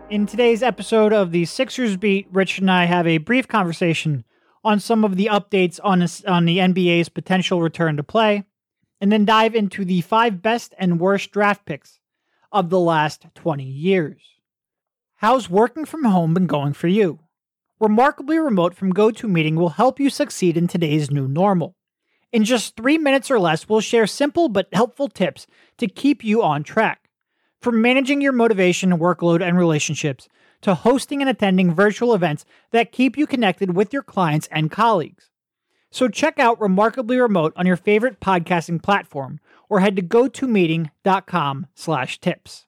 In today's episode of the Sixers Beat, Rich and I have a brief conversation on some of the updates on the NBA's potential return to play, and then dive into the 5 best and worst draft picks of the last 20 years. How's working from home been going for you? Remarkably Remote from GoToMeeting will help you succeed in today's new normal. In just 3 minutes or less, we'll share simple but helpful tips to keep you on track. From managing your motivation, workload, and relationships, to hosting and attending virtual events that keep you connected with your clients and colleagues. So check out Remarkably Remote on your favorite podcasting platform, or head to gotomeeting.com/tips.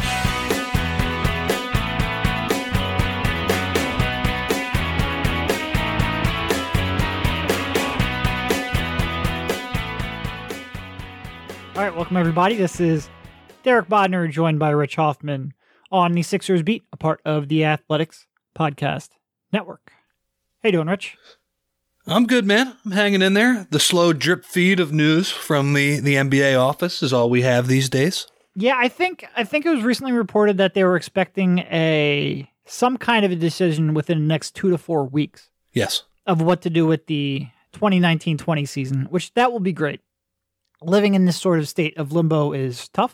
All right, welcome everybody. This is Derek Bodner, joined by Rich Hoffman on the Sixers Beat, a part of the Athletics Podcast Network. How you doing, Rich? I'm good, man. I'm hanging in there. The slow drip feed of news from the NBA office is all we have these days. Yeah, I think it was recently reported that they were expecting some kind of a decision within the next 2 to 4 weeks. Yes. Of what to do with the 2019-20 season, which that will be great. Living in this sort of state of limbo is tough.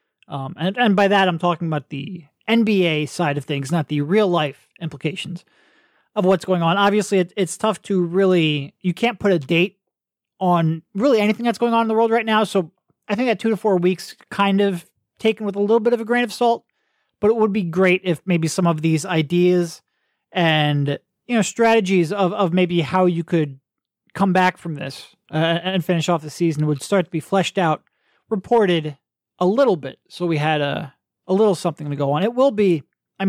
And by that, I'm talking about the NBA side of things, not the real life implications of what's going on. Obviously, it's tough to really, you can't put a date on really anything that's going on in the world right now. So I think that 2 to 4 weeks kind of taken with a little bit of a grain of salt, but it would be great if maybe some of these ideas and, strategies of maybe how you could come back from this and finish off the season would start to be fleshed out, reported a little bit, so we had a little something to go on. It will be, I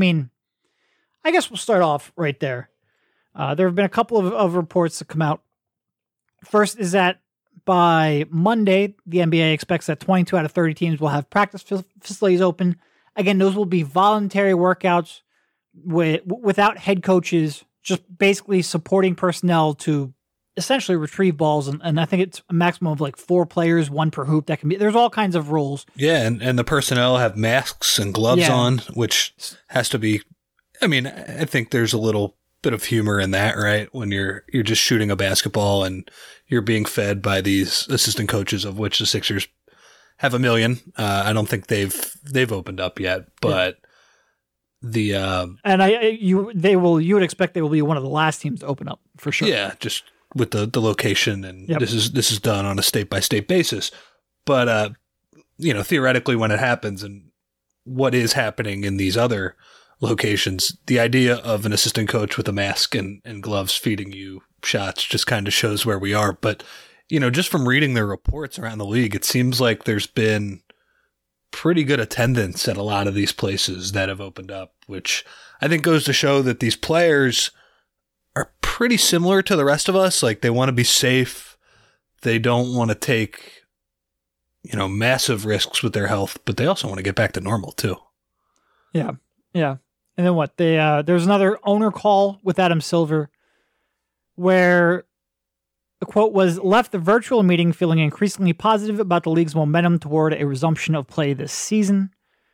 guess we'll start off right there. There have been a couple of reports that come out. First is that by Monday, the NBA expects that 22 out of 30 teams will have practice facilities open. Again, those will be voluntary workouts without head coaches, just basically supporting personnel to essentially retrieve balls, and I think it's a maximum of like 4 players, 1 per hoop. That can be, there's all kinds of rules. Yeah, and the personnel have masks and gloves on, which has to be, I think there's a little bit of humor in that, right? When you're just shooting a basketball and you're being fed by these assistant coaches, of which the Sixers have a million. I don't think they've opened up yet, but you would expect they will be one of the last teams to open up for sure. Yeah, just with the location, and this is done on a state-by-state basis. But, theoretically when it happens and what is happening in these other locations, the idea of an assistant coach with a mask and gloves feeding you shots just kind of shows where we are. But, just from reading their reports around the league, it seems like there's been pretty good attendance at a lot of these places that have opened up, which I think goes to show that these players are pretty similar to the rest of us. Like, they want to be safe. They don't want to take, massive risks with their health, but they also want to get back to normal too. Yeah. Yeah. And then what? There's another owner call with Adam Silver where the quote was, left the virtual meeting feeling increasingly positive about the league's momentum toward a resumption of play this season.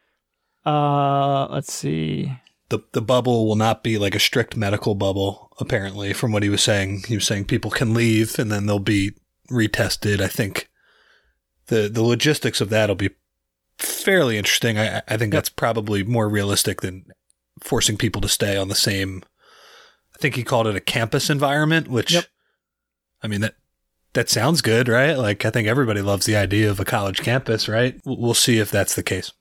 Let's see. The bubble will not be like a strict medical bubble, apparently, from what he was saying. He was saying people can leave and then they'll be retested. I think the logistics of that will be fairly interesting. I think that's probably more realistic than forcing people to stay on the same, I think he called it a campus environment, which, that sounds good, right? Like, I think everybody loves the idea of a college campus, right? We'll see if that's the case.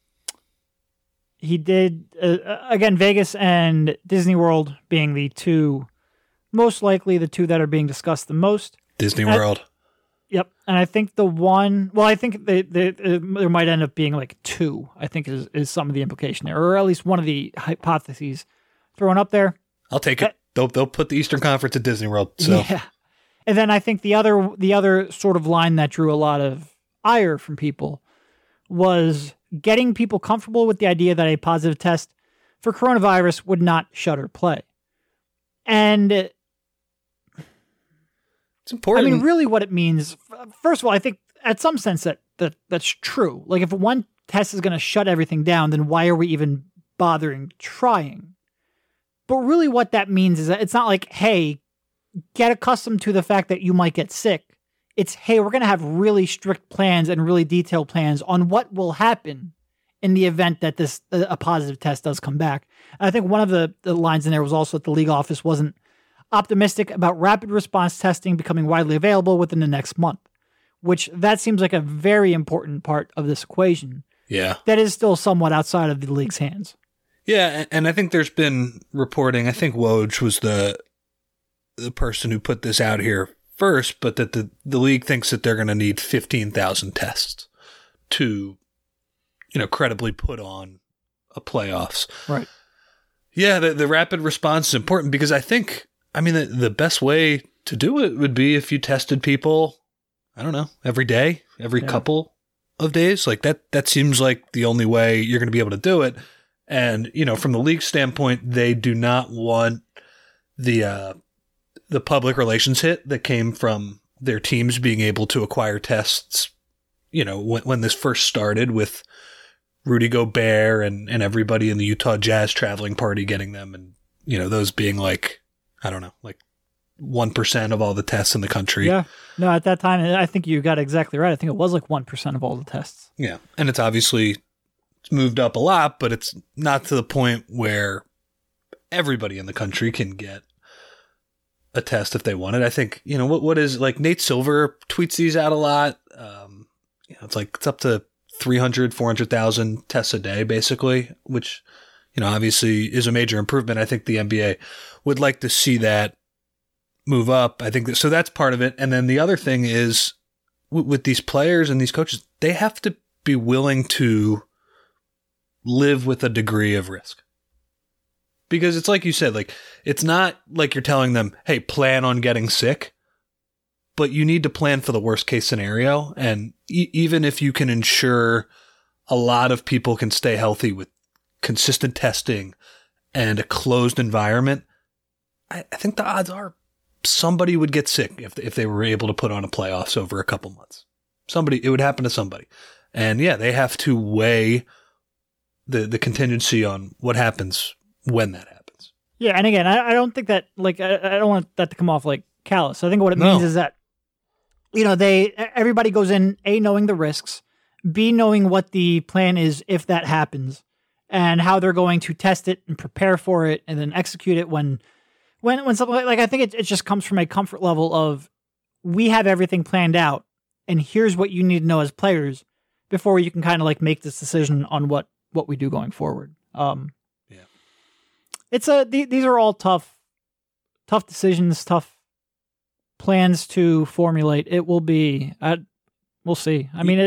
He did, again, Vegas and Disney World being the two, most likely the two that are being discussed the most. Disney World. Yep. And I think I think there might end up being like 2, I think is some of the implication there, or at least one of the hypotheses thrown up there. I'll take it. They'll put the Eastern Conference at Disney World. So. Yeah. And then I think the other sort of line that drew a lot of ire from people was getting people comfortable with the idea that a positive test for coronavirus would not shutter play. And it's important. Really what it means, first of all, I think at some sense that's true. Like, if one test is going to shut everything down, then why are we even bothering trying. But really what that means is that it's not like, hey, get accustomed to the fact that you might get sick. It's, hey, we're going to have really strict plans and really detailed plans on what will happen in the event that a positive test does come back. And I think one of the lines in there was also that the league office wasn't optimistic about rapid response testing becoming widely available within the next month, which that seems like a very important part of this equation. Yeah. That is still somewhat outside of the league's hands. Yeah, and I think there's been reporting, I think Woj was the person who put this out here first, but that the league thinks that they're going to need 15,000 tests to, credibly put on a playoffs. Right. Yeah, the rapid response is important because the best way to do it would be if you tested people, I don't know, every day, every couple of days. Like that seems like the only way you're going to be able to do it. And, from the league standpoint, they do not want the public relations hit that came from their teams being able to acquire tests, when this first started with Rudy Gobert and everybody in the Utah Jazz traveling party getting them. And, those being like, I don't know, like 1% of all the tests in the country. Yeah. No, at that time, I think you got exactly right. I think it was like 1% of all the tests. Yeah. And it's obviously moved up a lot, but it's not to the point where everybody in the country can get a test if they want it. I think, what is like Nate Silver tweets these out a lot. It's up to 300, 400,000 tests a day, basically, which, obviously is a major improvement. I think the NBA would like to see that move up. I think so that's part of it. And then the other thing is with these players and these coaches, they have to be willing to live with a degree of risk. Because it's like you said, like, it's not like you're telling them, hey, plan on getting sick, but you need to plan for the worst case scenario. And even if you can ensure a lot of people can stay healthy with consistent testing and a closed environment, I think the odds are somebody would get sick if they were able to put on a playoffs over a couple months. It would happen to somebody. And yeah, they have to weigh the contingency on what happens when that happens. Yeah, and again, I don't think that, like, I don't want that to come off like callous. I think what it means is that, everybody goes in, A, knowing the risks, B, knowing what the plan is if that happens, and how they're going to test it and prepare for it and then execute it when something like I think it just comes from a comfort level of, we have everything planned out, and here's what you need to know as players before you can kind of like make this decision on what we do going forward. It's these are all tough decisions, tough plans to formulate. It will be, we'll see. I mean,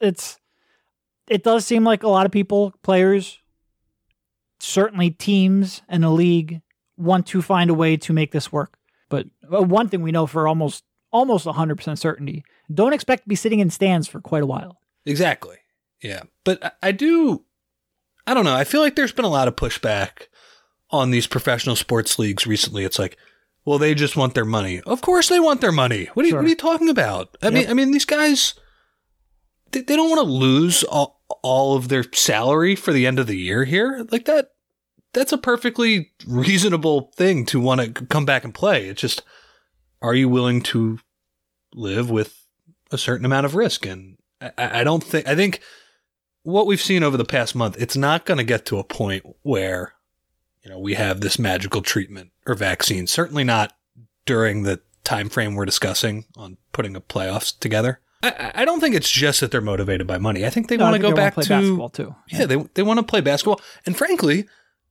it does seem like a lot of people, players, certainly teams and the league want to find a way to make this work. But one thing we know for almost 100% certainty, don't expect to be sitting in stands for quite a while. Exactly. Yeah. But I don't know. I feel like there's been a lot of pushback on these professional sports leagues recently. It's like, well, they just want their money. Of course they want their money. What are you talking about? I mean, these guys, they don't want to lose all of their salary for the end of the year here. Like that's a perfectly reasonable thing to want to come back and play. It's just, are you willing to live with a certain amount of risk? And I think what we've seen over the past month, it's not going to get to a point where, we have this magical treatment or vaccine. Certainly not during the time frame we're discussing on putting a playoffs together. I don't think it's just that they're motivated by money. I think they want to go back to basketball too. Yeah, they want to play basketball. And frankly,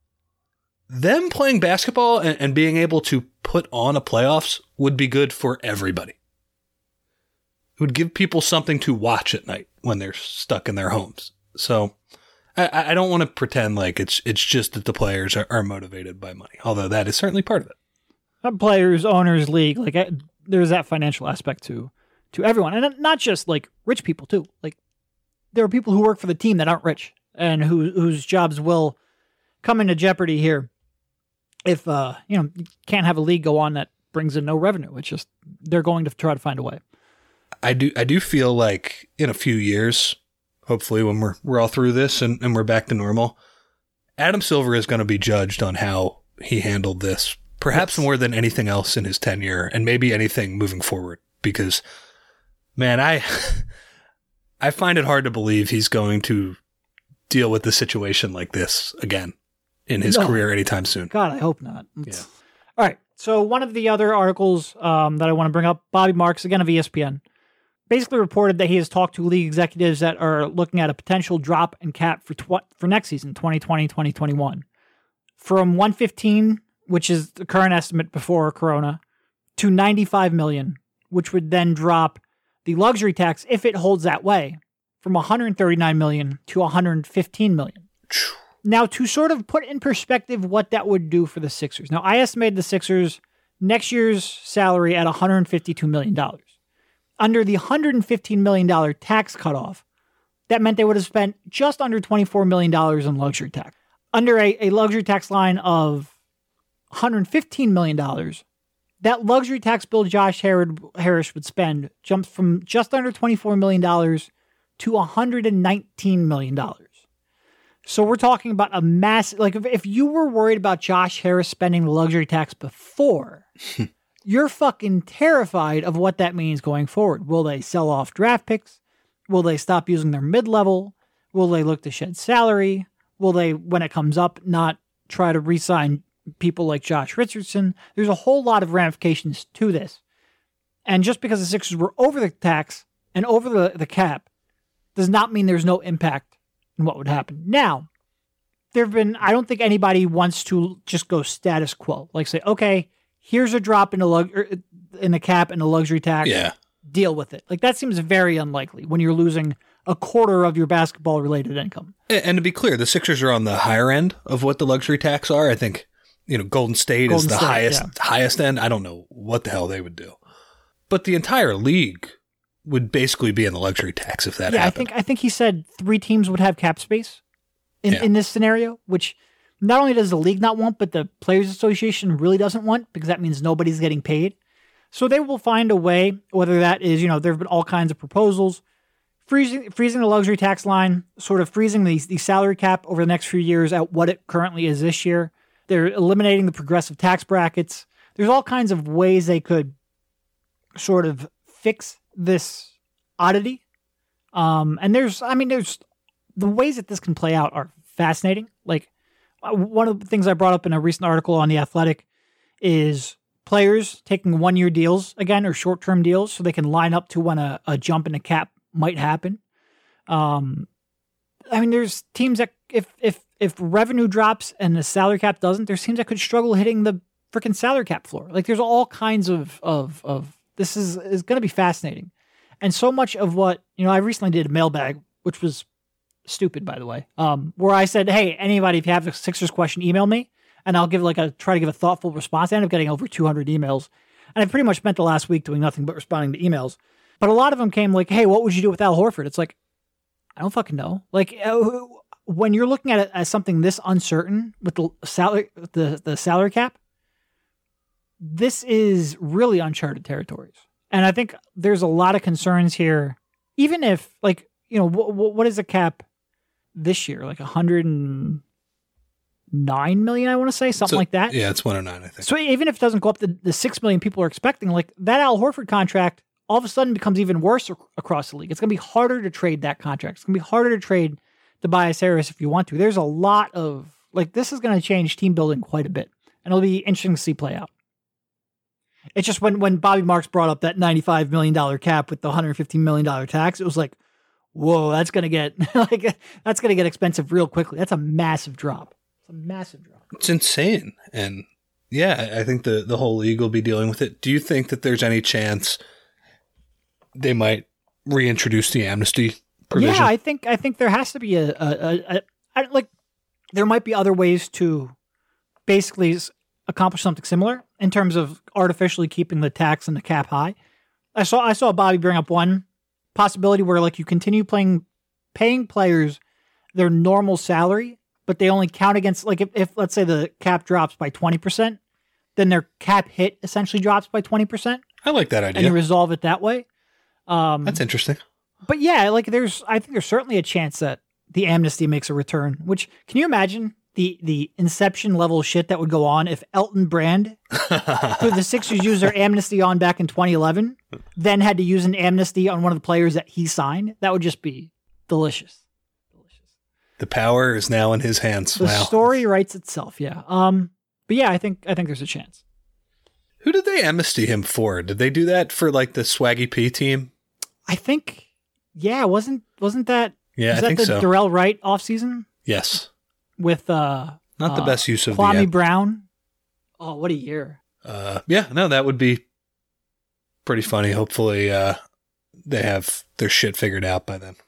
them playing basketball and being able to put on a playoffs would be good for everybody. It would give people something to watch at night when they're stuck in their homes. So I don't want to pretend like it's just that the players are motivated by money, although that is certainly part of it. Players, owners, league, like there's that financial aspect to everyone, and not just like rich people too. Like there are people who work for the team that aren't rich and whose jobs will come into jeopardy here if you can't have a league go on that brings in no revenue. It's just they're going to try to find a way. I do feel like in a few years, hopefully when we're all through this and we're back to normal, Adam Silver is going to be judged on how he handled this, perhaps more than anything else in his tenure, and maybe anything moving forward. Because, man, I find it hard to believe he's going to deal with a situation like this again in his career anytime soon. God, I hope not. Yeah. All right. So one of the other articles that I want to bring up, Bobby Marks, again of ESPN, basically reported that he has talked to league executives that are looking at a potential drop in cap for next season, 2020-2021, from 115, which is the current estimate before Corona, to 95 million, which would then drop the luxury tax, if it holds that way, from 139 million to 115 million. Now, to sort of put in perspective what that would do for the Sixers. Now, I estimated the Sixers next year's salary at $152 million. Under the $115 million tax cutoff, that meant they would have spent just under $24 million in luxury tax. Under a luxury tax line of $115 million, that luxury tax bill Josh Harris would spend jumps from just under $24 million to $119 million. So we're talking about a massive, like if you were worried about Josh Harris spending the luxury tax before, you're fucking terrified of what that means going forward. Will they sell off draft picks? Will they stop using their mid-level? Will they look to shed salary? Will they, when it comes up, not try to re-sign people like Josh Richardson? There's a whole lot of ramifications to this. And just because the Sixers were over the tax and over the cap does not mean there's no impact in what would happen. Now, there have been, I don't think anybody wants to just go status quo. Like say, okay, here's a drop in the cap and the luxury tax. Yeah. Deal with it. Like that seems very unlikely when you're losing a quarter of your basketball-related income. And to be clear, the Sixers are on the higher end of what the luxury tax are. I think, Golden State is the highest end. I don't know what the hell they would do. But the entire league would basically be in the luxury tax if that happened. I think he said 3 teams would have cap space in this scenario, which not only does the league not want, but the Players Association really doesn't want, because that means nobody's getting paid. So they will find a way, whether that is, there have been all kinds of proposals, freezing the luxury tax line, sort of freezing the salary cap over the next few years at what it currently is this year. They're eliminating the progressive tax brackets. There's all kinds of ways they could sort of fix this oddity. And there's the ways that this can play out are fascinating. Like one of the things I brought up in a recent article on The Athletic is players taking 1-year deals again, or short-term deals, so they can line up to when a jump in the cap might happen. There's teams that if revenue drops and the salary cap doesn't, there's teams that could struggle hitting the freaking salary cap floor. Like there's all kinds of this is going to be fascinating. And so much of what, I recently did a mailbag, which was stupid, by the way, where I said, hey, anybody, if you have a Sixers question, email me, and I'll try to give a thoughtful response. I ended up getting over 200 emails, and I pretty much spent the last week doing nothing but responding to emails. But a lot of them came like, hey, what would you do with Al Horford? It's like, I don't fucking know. Like, when you're looking at it as something this uncertain with the salary cap, this is really uncharted territories. And I think there's a lot of concerns here, even if, like, what is the cap this year? Like 109 million, I want to say, something like that. Yeah, it's 109, I think. So even if it doesn't go up to the 6 million people are expecting, like that Al Horford contract all of a sudden becomes even worse across the league. It's going to be harder to trade that contract. It's going to be harder to trade Tobias Harris if you want to. There's a lot of, like, this is going to change team building quite a bit. And it'll be interesting to see play out. It's just when Bobby Marks brought up that $95 million cap with the $115 million tax, it was like, whoa, that's going to get expensive real quickly. That's a massive drop. It's a massive drop. It's insane. And yeah, I think the whole league will be dealing with it. Do you think that there's any chance they might reintroduce the amnesty provision? Yeah, I think there has to be there might be other ways to basically accomplish something similar in terms of artificially keeping the tax and the cap high. I saw Bobby bring up one possibility where, like, you continue paying players their normal salary, but they only count against, like, if let's say the cap drops by 20%, then their cap hit essentially drops by 20%. I like that idea. And you resolve it that way. That's interesting. But yeah, like I think there's certainly a chance that the amnesty makes a return, which, can you imagine the Inception level shit that would go on if Elton Brand, who the Sixers used their amnesty on back in 2011, then had to use an amnesty on one of the players that he signed. That would just be delicious. The power is now in his hands. The story writes itself, yeah. But yeah, I think there's a chance. Who did they amnesty him for? Did they do that for like the Swaggy P team? I think, yeah, wasn't that? Yeah, I think so. Darrell Wright offseason? Yes. With not the best use of Kwame Brown. Oh, what a year! Yeah, no, that would be pretty funny. Hopefully, they have their shit figured out by then.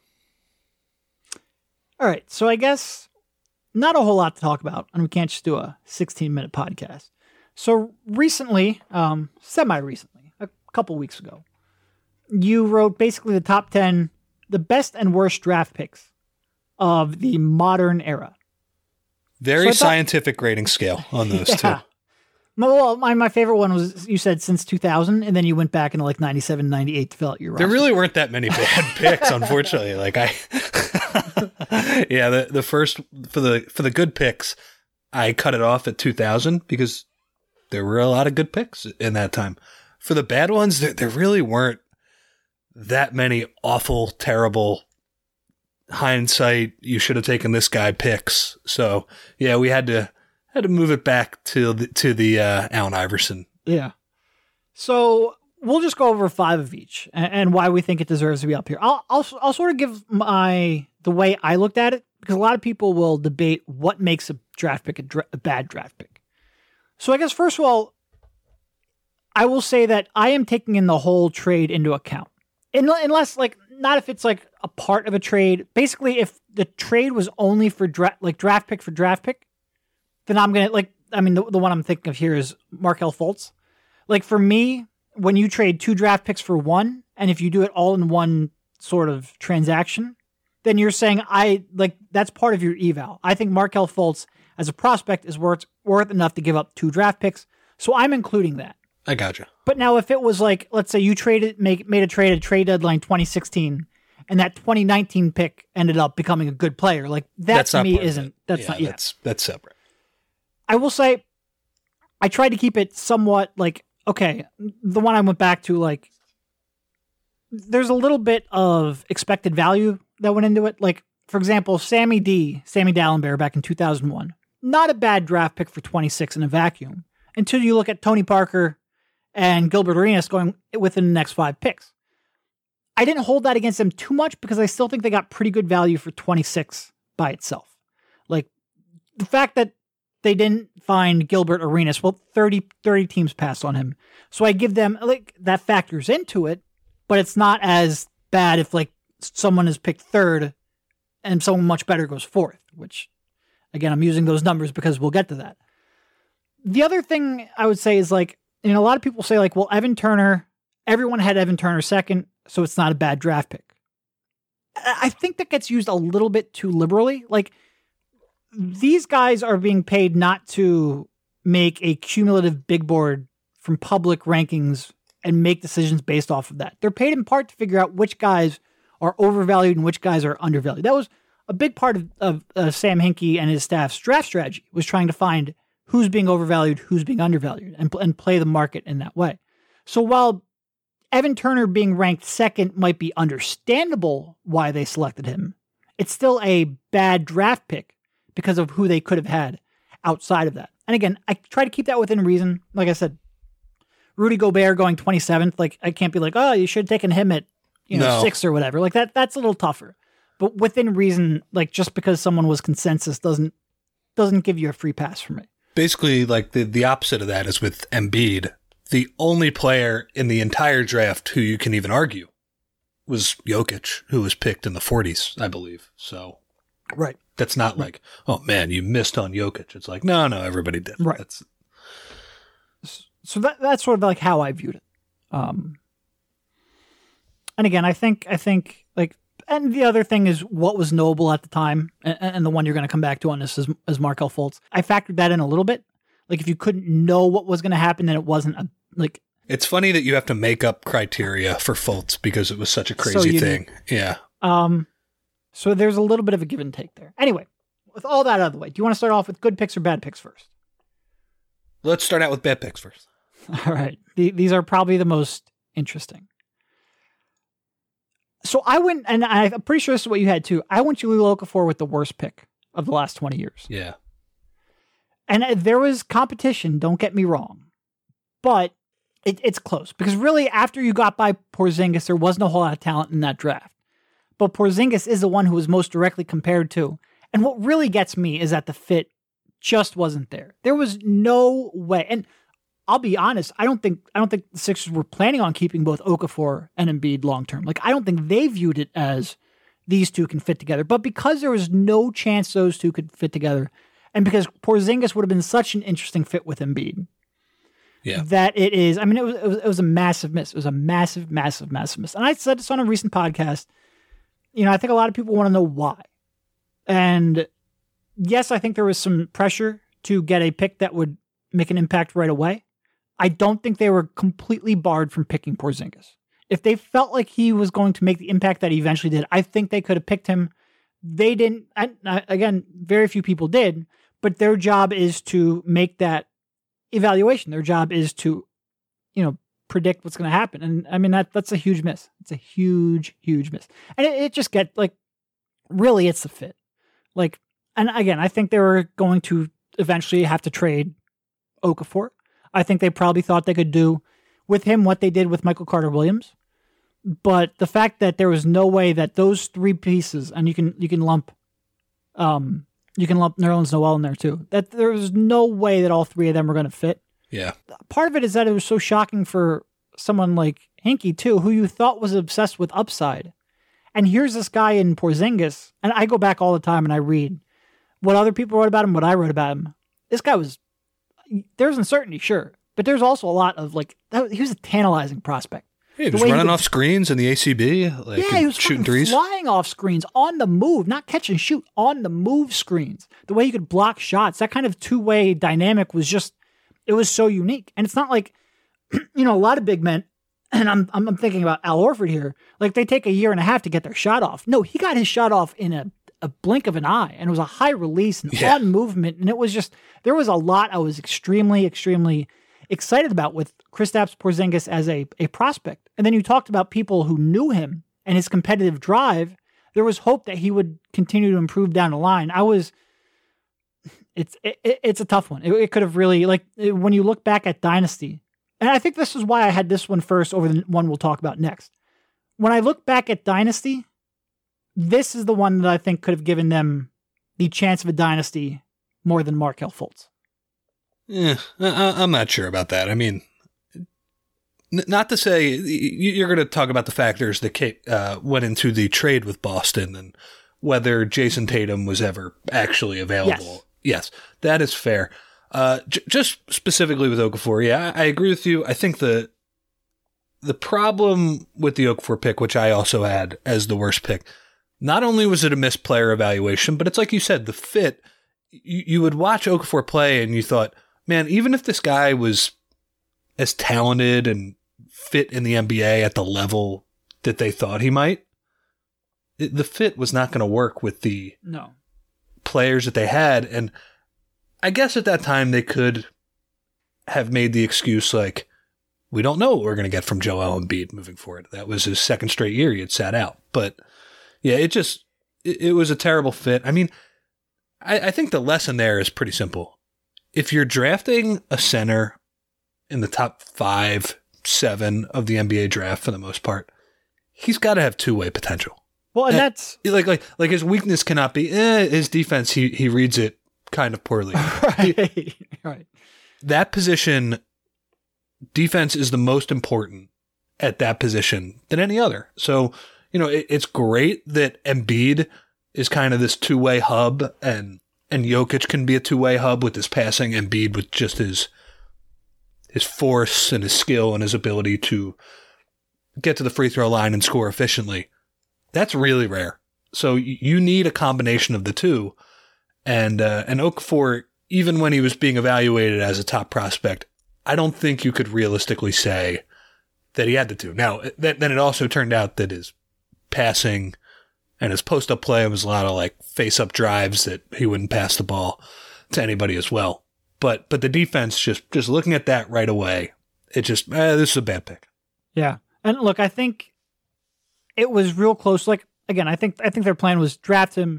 All right, so I guess not a whole lot to talk about, and we can't just do a 16-minute podcast. So recently, semi-recently, a couple weeks ago, you wrote basically the top 10, the best and worst draft picks of the modern era. Very scientific grading scale on those too. Well, my favorite one was, you said since 2000, and then you went back into like 97, 98 to fill out your roster. There really weren't that many bad picks, unfortunately. Like yeah, the first, for the good picks, I cut it off at 2000 because there were a lot of good picks in that time. For the bad ones, there really weren't that many awful, terrible, hindsight, you should have taken this guy picks. So yeah, we had to move it back to the Allen Iverson. Yeah. So we'll just go over 5 of each and why we think it deserves to be up here. I'll sort of give the way I looked at it, because a lot of people will debate what makes a draft pick a bad draft pick. So I guess first of all, I will say that I am taking in the whole trade into account. Unless, like, not if it's like a part of a trade. Basically, if the trade was only for draft pick for draft pick, then I'm going to, the one I'm thinking of here is Markelle Fultz. Like, for me, when you trade 2 draft picks for 1, and if you do it all in one sort of transaction, then you're saying that's part of your eval. I think Markelle Fultz as a prospect is worth enough to give up 2 draft picks. So I'm including that. I gotcha. But now if it was like, let's say you made a trade at trade deadline 2016, and that 2019 pick ended up becoming a good player, like that to me isn't. That's not. Yeah, that's separate. I will say, I tried to keep it somewhat like, okay, the one I went back to, like, there's a little bit of expected value that went into it. Like, for example, Sammy Dallenberg back in 2001, not a bad draft pick for 26 in a vacuum, until you look at Tony Parker and Gilbert Arenas going within the next 5 picks. I didn't hold that against them too much because I still think they got pretty good value for 26 by itself. Like, the fact that they didn't find Gilbert Arenas, well, 30 teams passed on him. So I give them, like, that factors into it, but it's not as bad if, like, someone is picked 3rd and someone much better goes 4th, which, again, I'm using those numbers because we'll get to that. The other thing I would say is, like, a lot of people say, like, well, Evan Turner, everyone had Evan Turner 2nd, so it's not a bad draft pick. I think that gets used a little bit too liberally. Like, these guys are being paid not to make a cumulative big board from public rankings and make decisions based off of that. They're paid in part to figure out which guys are overvalued and which guys are undervalued. That was a big part of Sam Hinkie and his staff's draft strategy, was trying to find who's being overvalued, who's being undervalued, and play the market in that way. So while Evan Turner being ranked 2nd might be understandable why they selected him, it's still a bad draft pick because of who they could have had outside of that. And again, I try to keep that within reason. Like I said, Rudy Gobert going 27th, like, I can't be like, oh, you should have taken him at 6 or whatever. Like, that's a little tougher. But within reason, like, just because someone was consensus doesn't give you a free pass for me. Basically, like, the opposite of that is with Embiid. The only player in the entire draft who you can even argue was Jokic, who was picked in the 40s, I believe. So, right. That's not like, oh man, you missed on Jokic. It's like, no, everybody did. Right. So that's sort of like how I viewed it. And again, I think like, and the other thing is what was knowable at the time, and the one you're going to come back to on this is Markelle Fultz. I factored that in a little bit. Like, if you couldn't know what was going to happen, then it wasn't like. It's funny that you have to make up criteria for Fultz because it was such a crazy thing. Yeah. So there's a little bit of a give and take there. Anyway, with all that out of the way, do you want to start off with good picks or bad picks first? Let's start out with bad picks first. All right. These are probably the most interesting. So I went, and I'm pretty sure this is what you had too. I went Jahlil Okafor with the worst pick of the last 20 years. Yeah. And there was competition, don't get me wrong. But it's close. Because really, after you got by Porzingis, there wasn't a whole lot of talent in that draft. But Porzingis is the one who was most directly compared to. And what really gets me is that the fit just wasn't there. There was no way. And I'll be honest, I don't think the Sixers were planning on keeping both Okafor and Embiid long term. Like, I don't think they viewed it as these two can fit together. But because there was no chance those two could fit together, and because Porzingis would have been such an interesting fit with Embiid, that it is. I mean, it was a massive miss. It was a massive, massive, massive miss. And I said this on a recent podcast. You know, I think a lot of people want to know why. And yes, I think there was some pressure to get a pick that would make an impact right away. I don't think they were completely barred from picking Porzingis. If they felt like he was going to make the impact that he eventually did, I think they could have picked him. They didn't. Again, very few people did, but their job is to make that evaluation. Their job is to, predict what's going to happen. And I mean, that's a huge miss. It's a huge, huge miss. And it just really, it's the fit. And again, I think they were going to eventually have to trade Okafor. I think they probably thought they could do with him what they did with Michael Carter-Williams. But the fact that there was no way that those three pieces, and you can lump Nerlens Noel in there too, that there was no way that all three of them were going to fit. Yeah. Part of it is that it was so shocking for someone like Hinkie too, who you thought was obsessed with upside. And here's this guy in Porzingis, and I go back all the time and I read what other people wrote about him, what I wrote about him. This guy there's uncertainty, sure, but there's also a lot of he was a tantalizing prospect. Yeah, he was running off screens in the ACB, he was shooting threes, flying off screens on the move, not catch and shoot, on the move screens. The way he could block shots, that kind of two-way dynamic was it was so unique. And it's not like, a lot of big men, and I'm thinking about Al Horford here, they take a year and a half to get their shot off. No, he got his shot off in a blink of an eye, and it was a high release and on movement, and it was there was a lot I was extremely, extremely excited about with Kristaps Porzingis as a prospect. And then you talked about people who knew him and his competitive drive. There was hope that he would continue to improve down the line. It's a tough one. It could have really, when you look back at Dynasty, and I think this is why I had this one first over the one we'll talk about next. When I look back at Dynasty, this is the one that I think could have given them the chance of a dynasty more than Markelle Fultz. Yeah, I'm not sure about that. I mean, not to say you're going to talk about the factors that went into the trade with Boston and whether Jason Tatum was ever actually available. Yes, that is fair. Just specifically with Okafor, I agree with you. I think the problem with the Okafor pick, which I also had as the worst pick, not only was it a missed player evaluation, but it's like you said, the fit. You would watch Okafor play and you thought, man, even if this guy was as talented and fit in the NBA at the level that they thought he might, the fit was not going to work with the players that they had. And I guess at that time they could have made the excuse we don't know what we're going to get from Joel Embiid moving forward. That was his second straight year he had sat out. But yeah, it was a terrible fit. I mean, I think the lesson there is pretty simple. If you're drafting a center in the top 5, 7 of the NBA draft for the most part, he's got to have two-way potential. Well, and that's like his weakness cannot be his defense. He reads it kind of poorly. Right. That position, defense is the most important at that position than any other. So, it's great that Embiid is kind of this two-way hub and Jokic can be a two-way hub with his passing, Embiid with just his force and his skill and his ability to get to the free throw line and score efficiently. That's really rare. So you need a combination of the two. And Okafor, even when he was being evaluated as a top prospect, I don't think you could realistically say that he had the two. Now, then it also turned out that his passing And his post-up play was a lot of like face-up drives that he wouldn't pass the ball to anybody as well. But the defense, just looking at that right away, it just, this is a bad pick. Yeah. And look, I think it was real close. Like, again, I think their plan was draft him,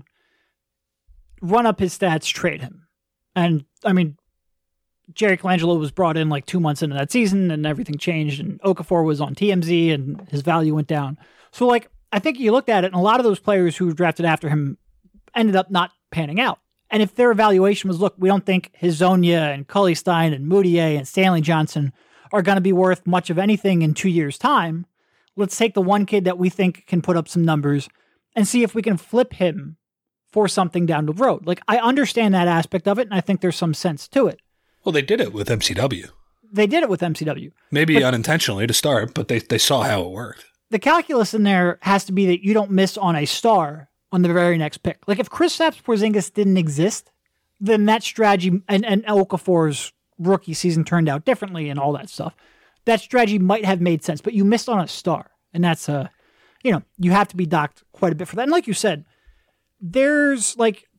run up his stats, trade him. And, I mean, Jerry Colangelo was brought in like 2 months into that season and everything changed, and Okafor was on TMZ and his value went down. So, like, I think you looked at it, and a lot of those players who were drafted after him ended up not panning out. And if their evaluation was, look, we don't think Hezonja and Cully Stein and Moutier and Stanley Johnson are going to be worth much of anything in 2 years' time, let's take the one kid that we think can put up some numbers and see if we can flip him for something down the road. Like, I understand that aspect of it, and I think there's some sense to it. Well, they did it with MCW. They did it with MCW. Maybe unintentionally to start, but they saw how it worked. The calculus in there has to be that you don't miss on a star on the very next pick. Like, if Kristaps Porzingis didn't exist, then that strategy, and Okafor's rookie season turned out differently and all that stuff, that strategy might have made sense, but you missed on a star. And that's, you have to be docked quite a bit for that. And like you said, there was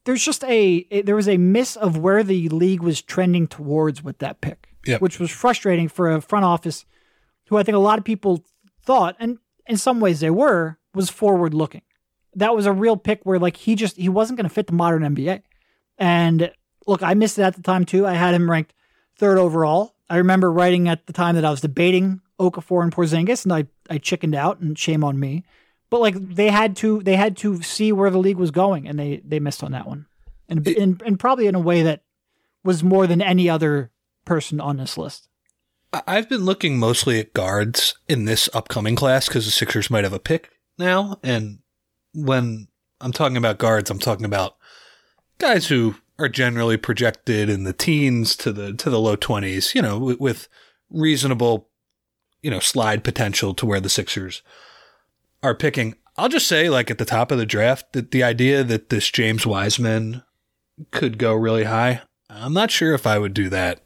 a miss of where the league was trending towards with that pick, which was frustrating for a front office who I think a lot of people thought, and in some ways they were, was forward looking. That was a real pick where like he wasn't going to fit the modern NBA. And look, I missed it at the time too. I had him ranked 3rd overall. I remember writing at the time that I was debating Okafor and Porzingis, and I chickened out, and shame on me. But like they had to see where the league was going, and they missed on that one, and probably in a way that was more than any other person on this list. I've been looking mostly at guards in this upcoming class because the Sixers might have a pick now, and when I'm talking about guards, I'm talking about guys who are generally projected in the teens to the low 20s, with reasonable, slide potential to where the Sixers are picking. I'll just say, like, at the top of the draft, that the idea that this James Wiseman could go really high, I'm not sure if I would do that.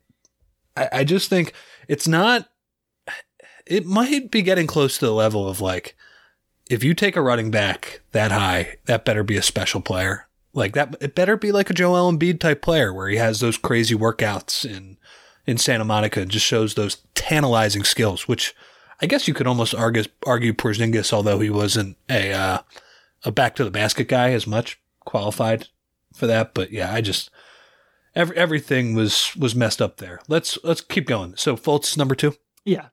I just think it might be getting close to the level of, like, if you take a running back that high, that better be a special player. Like that, it better be like a Joel Embiid type player where he has those crazy workouts in Santa Monica and just shows those tantalizing skills, which I guess you could almost argue Porzingis, although he wasn't a back to the basket guy as much, qualified for that. But yeah, everything was messed up there. Let's keep going. So Fultz number 2. Yeah.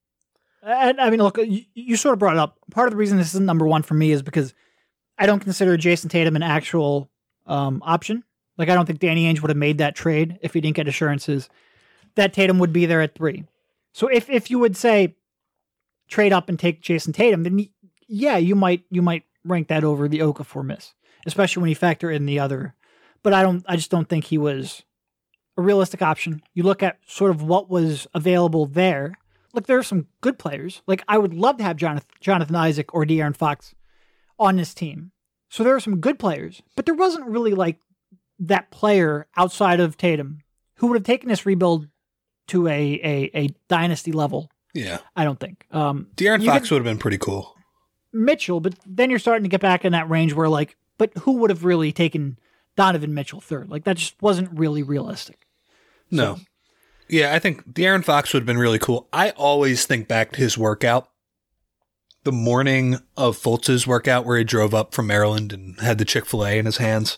And I mean, look, you sort of brought it up. Part of the reason this isn't number 1 for me is because I don't consider Jason Tatum an actual option. Like, I don't think Danny Ainge would have made that trade if he didn't get assurances that Tatum would be there at 3. So if you would say trade up and take Jason Tatum, then yeah, you might rank that over the Okafor miss, especially when you factor in the other. But I just don't think he was a realistic option. You look at sort of what was available there. Look, there are some good players. Like, I would love to have Jonathan Isaac or De'Aaron Fox on this team. So there are some good players, but there wasn't really like that player outside of Tatum who would have taken this rebuild to a dynasty level. Yeah. I don't think. De'Aaron Fox would have been pretty cool. Mitchell, but then you're starting to get back in that range where like, but who would have really taken Donovan Mitchell 3rd? Like, that just wasn't really realistic. No. So, yeah, I think De'Aaron Fox would have been really cool. I always think back to his workout. The morning of Fultz's workout where he drove up from Maryland and had the Chick-fil-A in his hands.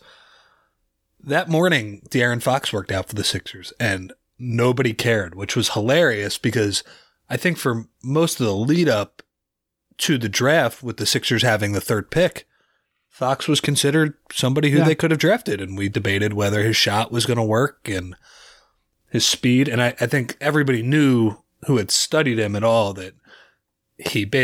That morning, De'Aaron Fox worked out for the Sixers, and nobody cared, which was hilarious because I think for most of the lead up to the draft, with the Sixers having the 3rd pick, Fox was considered somebody who they could have drafted, and we debated whether his shot was going to work and his speed. And I think everybody knew who had studied him at all that he hit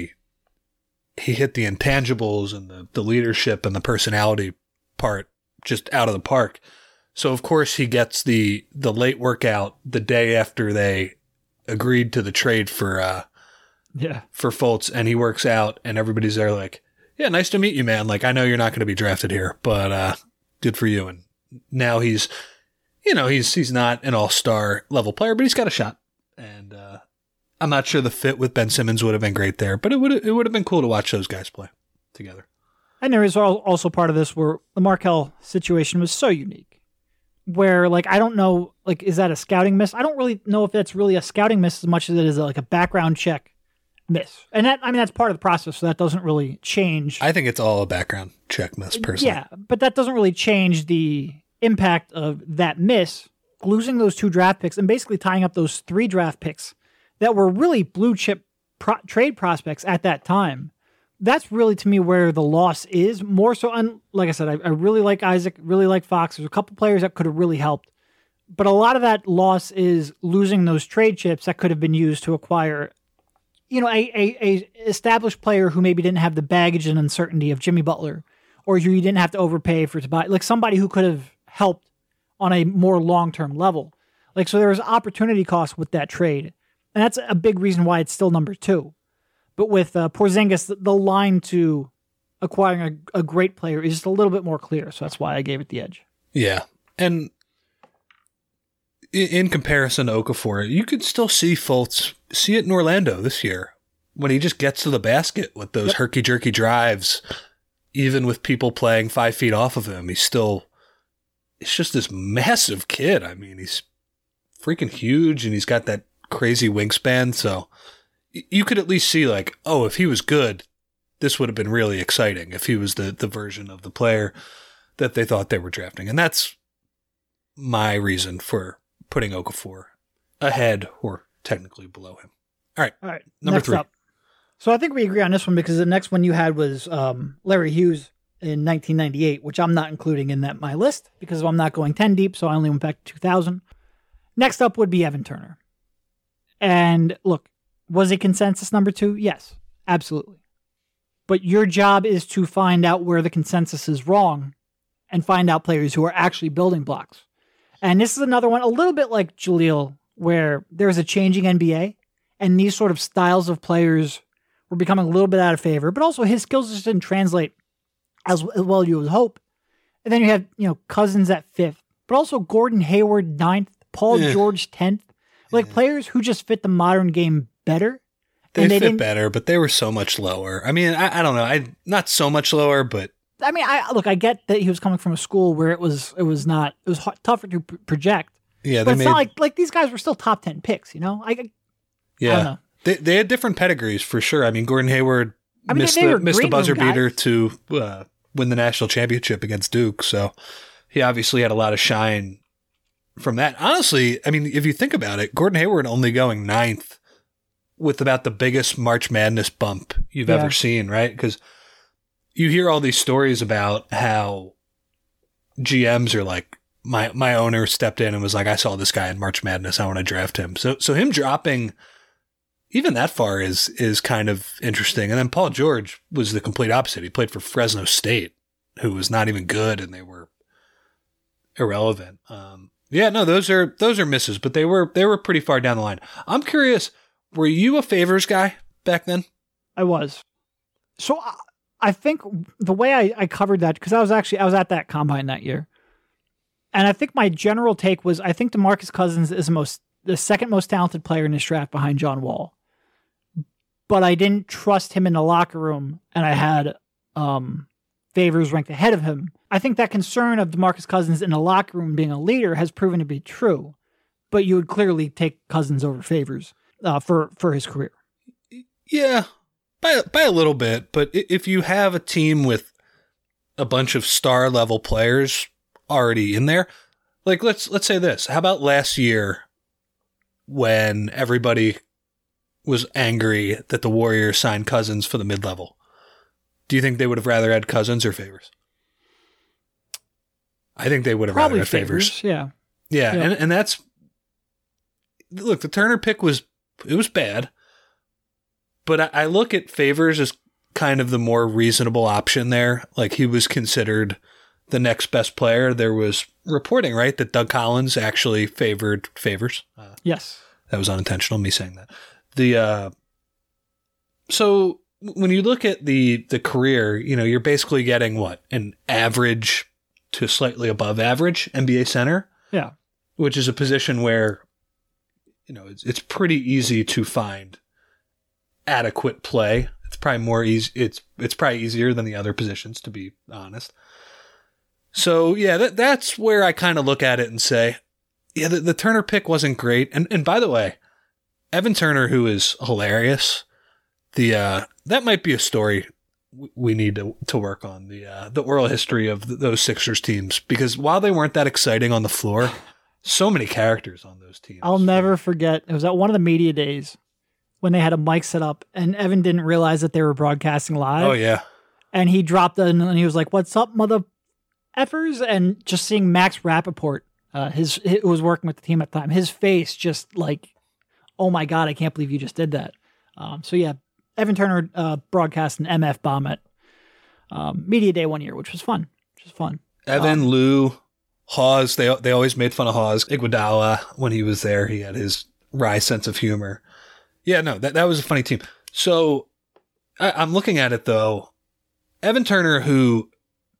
the intangibles and the leadership and the personality part just out of the park. So of course he gets the late workout the day after they agreed to the trade for Fultz, and he works out and everybody's there like, yeah, nice to meet you, man. Like, I know you're not going to be drafted here, but good for you. And now he's not an all-star level player, but he's got a shot. And I'm not sure the fit with Ben Simmons would have been great there, but it would have been cool to watch those guys play together. And there is also part of this where the Markelle situation was so unique. Where, like, I don't know, like, is that a scouting miss? I don't really know if that's really a scouting miss as much as it is like a background check miss. And that, I mean, that's part of the process, so that doesn't really change. I think it's all a background check miss, personally. Yeah, but that doesn't really change the impact of that miss, losing those 2 draft picks and basically tying up those 3 draft picks that were really blue chip trade prospects at that time. That's really, to me, where the loss is more so. And like I said, I really like Isaac, really like Fox. There's a couple players that could have really helped, but a lot of that loss is losing those trade chips that could have been used to acquire, you know, a established player who maybe didn't have the baggage and uncertainty of Jimmy Butler, or who you didn't have to overpay for to buy, like somebody who could have helped on a more long-term level. Like, so there was opportunity cost with that trade. And that's a big reason why it's still number 2. But with Porzingis, the line to acquiring a great player is just a little bit more clear. So that's why I gave it the edge. Yeah. And in comparison to Okafor, you could still see Fultz, see it in Orlando this year, when he just gets to the basket with those herky-jerky drives, even with people playing 5 feet off of him. It's just this massive kid. I mean, he's freaking huge, and he's got that crazy wingspan, so you could at least see, like, oh, if he was good, this would have been really exciting if he was the version of the player that they thought they were drafting. And that's my reason for putting Okafor ahead or technically below him. All right. Number 3. Up. So I think we agree on this one because the next one you had was Larry Hughes in 1998, which I'm not including in my list because I'm not going 10 deep, so I only went back to 2000. Next up would be Evan Turner. And look, was it consensus number 2? Yes, absolutely. But your job is to find out where the consensus is wrong and find out players who are actually building blocks. And this is another one, a little bit like Jahlil, where there's a changing NBA and these sort of styles of players were becoming a little bit out of favor, but also his skills just didn't translate as well as you would hope. And then you have, Cousins at 5th, but also Gordon Hayward 9th, Paul George 10th. Like players who just fit the modern game better. They fit better, but they were so much lower. I mean, I don't know. Not so much lower, but I mean, I get that he was coming from a school where it was tougher to project. Yeah, but it's not like these guys were still top 10 picks. I don't know. They had different pedigrees for sure. I mean, Gordon Hayward missed the buzzer beater to win the national championship against Duke, so he obviously had a lot of shine from that. Honestly, I mean, if you think about it, Gordon Hayward only going 9th with about the biggest March Madness bump you've ever seen, right? Because you hear all these stories about how GMs are like, my owner stepped in and was like, I saw this guy in March Madness, I want to draft him. So him dropping even that far is kind of interesting. And then Paul George was the complete opposite. He played for Fresno State, who was not even good, and they were irrelevant. Those are misses, but they were pretty far down the line. I'm curious, were you a favors guy back then? I was. So I think the way I covered that, because I was at that combine that year, and I think my general take was I think DeMarcus Cousins is the second most talented player in this draft behind John Wall, but I didn't trust him in the locker room, and I had favors ranked ahead of him. I think that concern of DeMarcus Cousins in the locker room being a leader has proven to be true, but you would clearly take Cousins over favors for his career. Yeah, by a little bit, but if you have a team with a bunch of star level players already in there, like let's say this. How about last year when everybody was angry that the Warriors signed Cousins for the mid-level? Do you think they would have rather had Cousins or favors? I think they would have rather had favors. Yeah. Yeah. And that's, look, the Turner pick was bad, but I look at favors as kind of the more reasonable option there. Like, he was considered the next best player. There was reporting, right, that Doug Collins actually favored favors. Yes. That was unintentional, me saying that. So when you look at the career, you're basically getting what? An average to slightly above average NBA center. Yeah. Which is a position where, it's pretty easy to find adequate play, It's probably more easy. It's probably easier than the other positions, to be honest. So yeah, that's where I kind of look at it and say, yeah, the Turner pick wasn't great. And by the way, Evan Turner, who is hilarious, that might be a story we need to work on, the oral history of those Sixers teams, because while they weren't that exciting on the floor, so many characters on those teams. I'll never forget. It was at one of the media days when they had a mic set up and Evan didn't realize that they were broadcasting live. Oh yeah. And he dropped it and he was like, "What's up, mother effers?" And just seeing Max Rappaport, who was working with the team at the time, his face just like, "Oh my God, I can't believe you just did that." So yeah, Evan Turner broadcast an MF bomb at media day one year, which was fun. Evan, Lou, Hawes, they always made fun of Hawes. Iguodala, when he was there, he had his wry sense of humor. Yeah, no, that was a funny team. So I'm looking at it though. Evan Turner, who,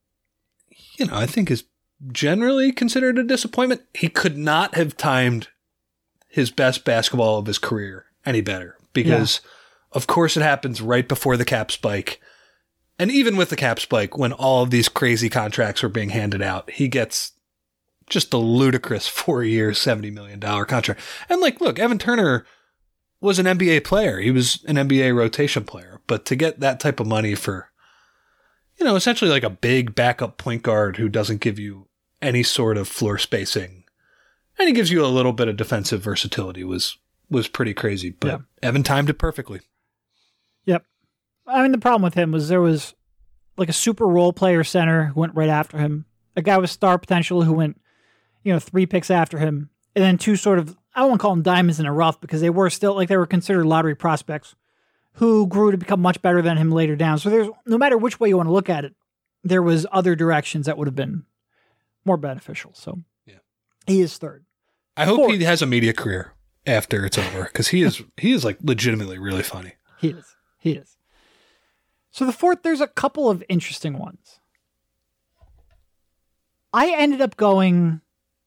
I think is generally considered a disappointment. He could not have timed his best basketball of his career any better because, of course, it happens right before the cap spike. And even with the cap spike, when all of these crazy contracts were being handed out, he gets just a ludicrous 4-year, $70 million contract. And look, Evan Turner was an NBA player. He was an NBA rotation player. But to get that type of money for, essentially like a big backup point guard who doesn't give you any sort of floor spacing, and he gives you a little bit of defensive versatility was pretty crazy. But Evan timed it perfectly. Yep. I mean, the problem with him was there was like a super role player center who went right after him, a guy with star potential who went, 3 picks after him, and then 2 sort of, I don't want to call them diamonds in a rough because they were still they were considered lottery prospects who grew to become much better than him later down. So there's, no matter which way you want to look at it, there was other directions that would have been more beneficial. So he is third. I hope he has a media career after it's over because he is like legitimately really funny. He is. So the fourth, there's a couple of interesting ones. I ended up going.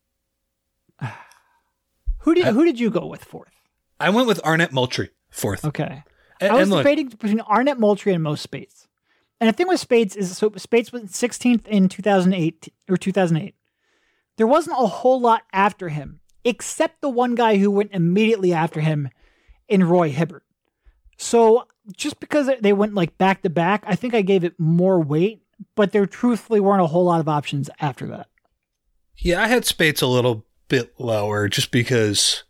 Who did you go with fourth? I went with Arnett Moultrie fourth. Okay. I was debating between Arnett Moultrie and Mo Spates. And the thing with Spates is, so Spates was 16th in 2008. There wasn't a whole lot after him, except the one guy who went immediately after him in Roy Hibbert. So just because they went like back to back, I think I gave it more weight, but there truthfully weren't a whole lot of options after that. Yeah, I had Spates a little bit lower just because,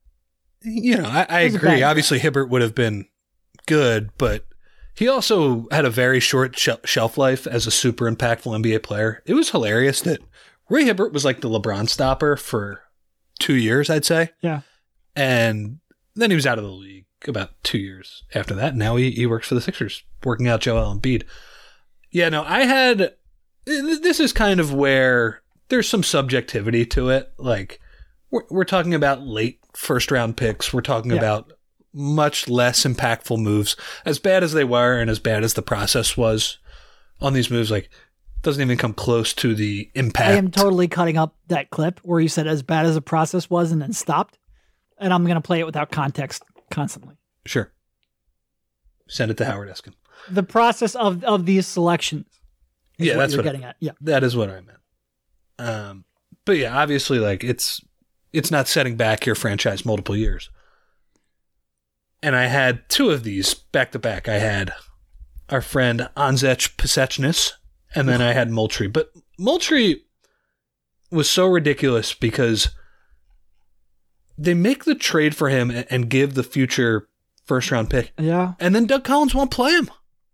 I agree. Obviously, Hibbert would have been good, but he also had a very short shelf life as a super impactful NBA player. It was hilarious that Roy Hibbert was like the LeBron stopper for 2 years, I'd say. Yeah. And then he was out of the league about 2 years after that. Now he works for the Sixers, working out Joel Embiid. Yeah, no, this is kind of where there's some subjectivity to it. Like, we're talking about late first round picks. We're talking about much less impactful moves. As bad as they were and as bad as the process was on these moves, like, doesn't even come close to the impact. I am totally cutting up that clip where you said as bad as the process was and then stopped. And I'm going to play it without context constantly. Sure. Send it to Howard Eskin. The process of these selections. Yeah, that's what you're getting at. Yeah. That is what I meant. But yeah, obviously, like, it's not setting back your franchise multiple years. And I had 2 of these back to back. I had our friend Anzec Pasechnis, and then I had Moultrie. But Moultrie was so ridiculous because they make the trade for him and give the future first round pick. Yeah. And then Doug Collins won't play him.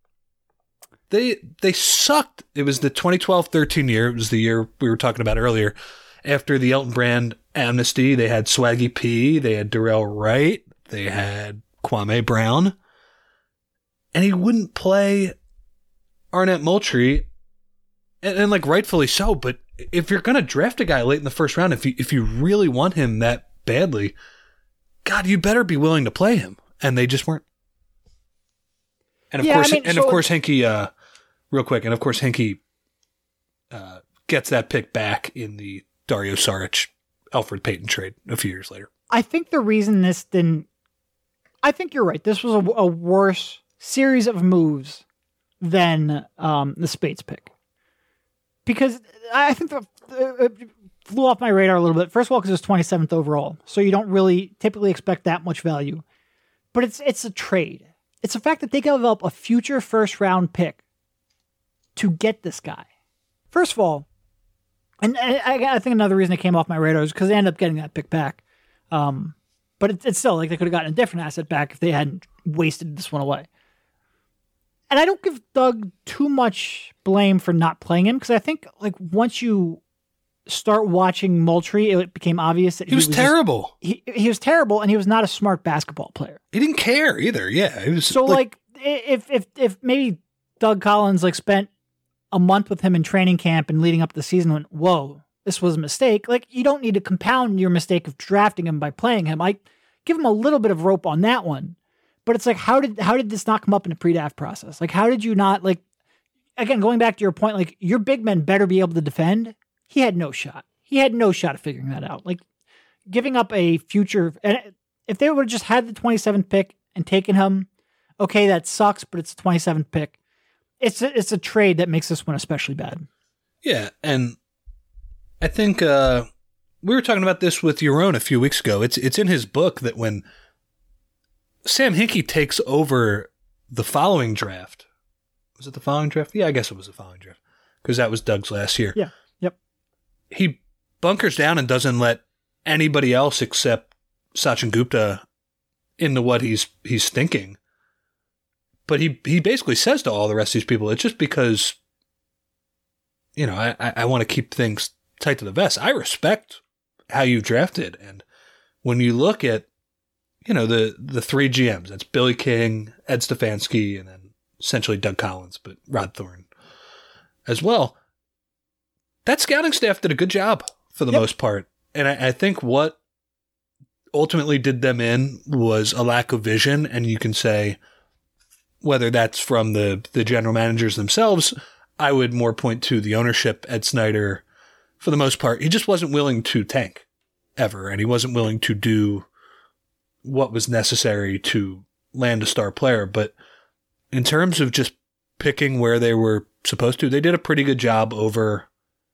They sucked. It was the 2012-13 year. It was the year we were talking about earlier. After the Elton Brand amnesty, they had Swaggy P, they had Darrell Wright, they had Kwame Brown, and he wouldn't play Arnett Moultrie, and like rightfully so. But if you're gonna draft a guy late in the first round, if you really want him that badly, God, you better be willing to play him. And they just weren't. And of course, Hinkie, real quick, and of course Hinkie gets that pick back in the Dario Saric, Elfrid Payton trade a few years later. I think the reason this didn't, I think you're right. This was a worse series of moves than the Spates pick. Because I think it flew off my radar a little bit. First of all, because it was 27th overall. So you don't really typically expect that much value. But it's a trade. It's the fact that they gave up a future first-round pick to get this guy. First of all, and I think another reason it came off my radar is because they ended up getting that pick back. But it's still like they could have gotten a different asset back if they hadn't wasted this one away. And I don't give Doug too much blame for not playing him because I think like once you start watching Moultrie, it became obvious that he was terrible. He was terrible, and he was not a smart basketball player. He didn't care either. Yeah, it was so like if maybe Doug Collins like spent a month with him in training camp and leading up to the season, went, whoa, this was a mistake. Like you don't need to compound your mistake of drafting him by playing him. I give him a little bit of rope on that one, but it's like how did this not come up in the pre-draft process? Like how did you not like? Again, going back to your point, like your big men better be able to defend. He had no shot. He had no shot of figuring that out. Like giving up a future, and if they would have just had the 27th pick and taken him, okay, that sucks, but it's the 27th pick. It's a trade that makes this one especially bad. Yeah, and I think we were talking about this with Yaron a few weeks ago. It's in his book that when Sam Hinkie takes over the following draft, was it the following draft? Yeah, I guess it was the following draft because that was Doug's last year. Yeah. He bunkers down and doesn't let anybody else except Sachin Gupta into what he's thinking. But he basically says to all the rest of these people, it's just because, you know, I want to keep things tight to the vest. I respect how you drafted. And when you look at, you know, the three GMs, that's Billy King, Ed Stefanski, and then essentially Doug Collins, but Rod Thorne as well. That scouting staff did a good job for the most part. And I think what ultimately did them in was a lack of vision. And you can say whether that's from the general managers themselves, I would more point to the ownership, Ed Snyder, for the most part. He just wasn't willing to tank ever. And he wasn't willing to do what was necessary to land a star player. But in terms of just picking where they were supposed to, they did a pretty good job over,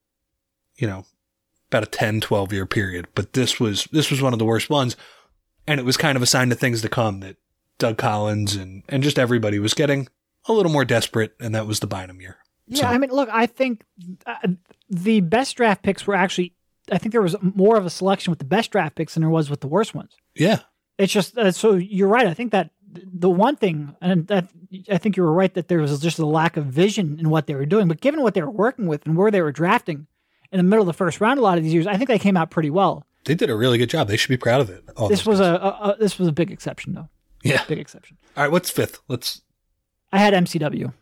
you know, about a 10, 12 year period. But this was one of the worst ones. And it was kind of a sign of things to come that Doug Collins and just everybody was getting a little more desperate. And that was the Bynum year. Yeah. So, I mean, look, I think the best draft picks were actually, I think there was more of a selection with the best draft picks than there was with the worst ones. Yeah. It's just, so you're right. I think that the one thing, and that I think you were right that there was just a lack of vision in what they were doing, but given what they were working with and where they were drafting, in the middle of the first round, a lot of these years, I think they came out pretty well. They did a really good job. They should be proud of it. This was a big exception, though. Yeah, big exception. All right, what's fifth? I had MCW,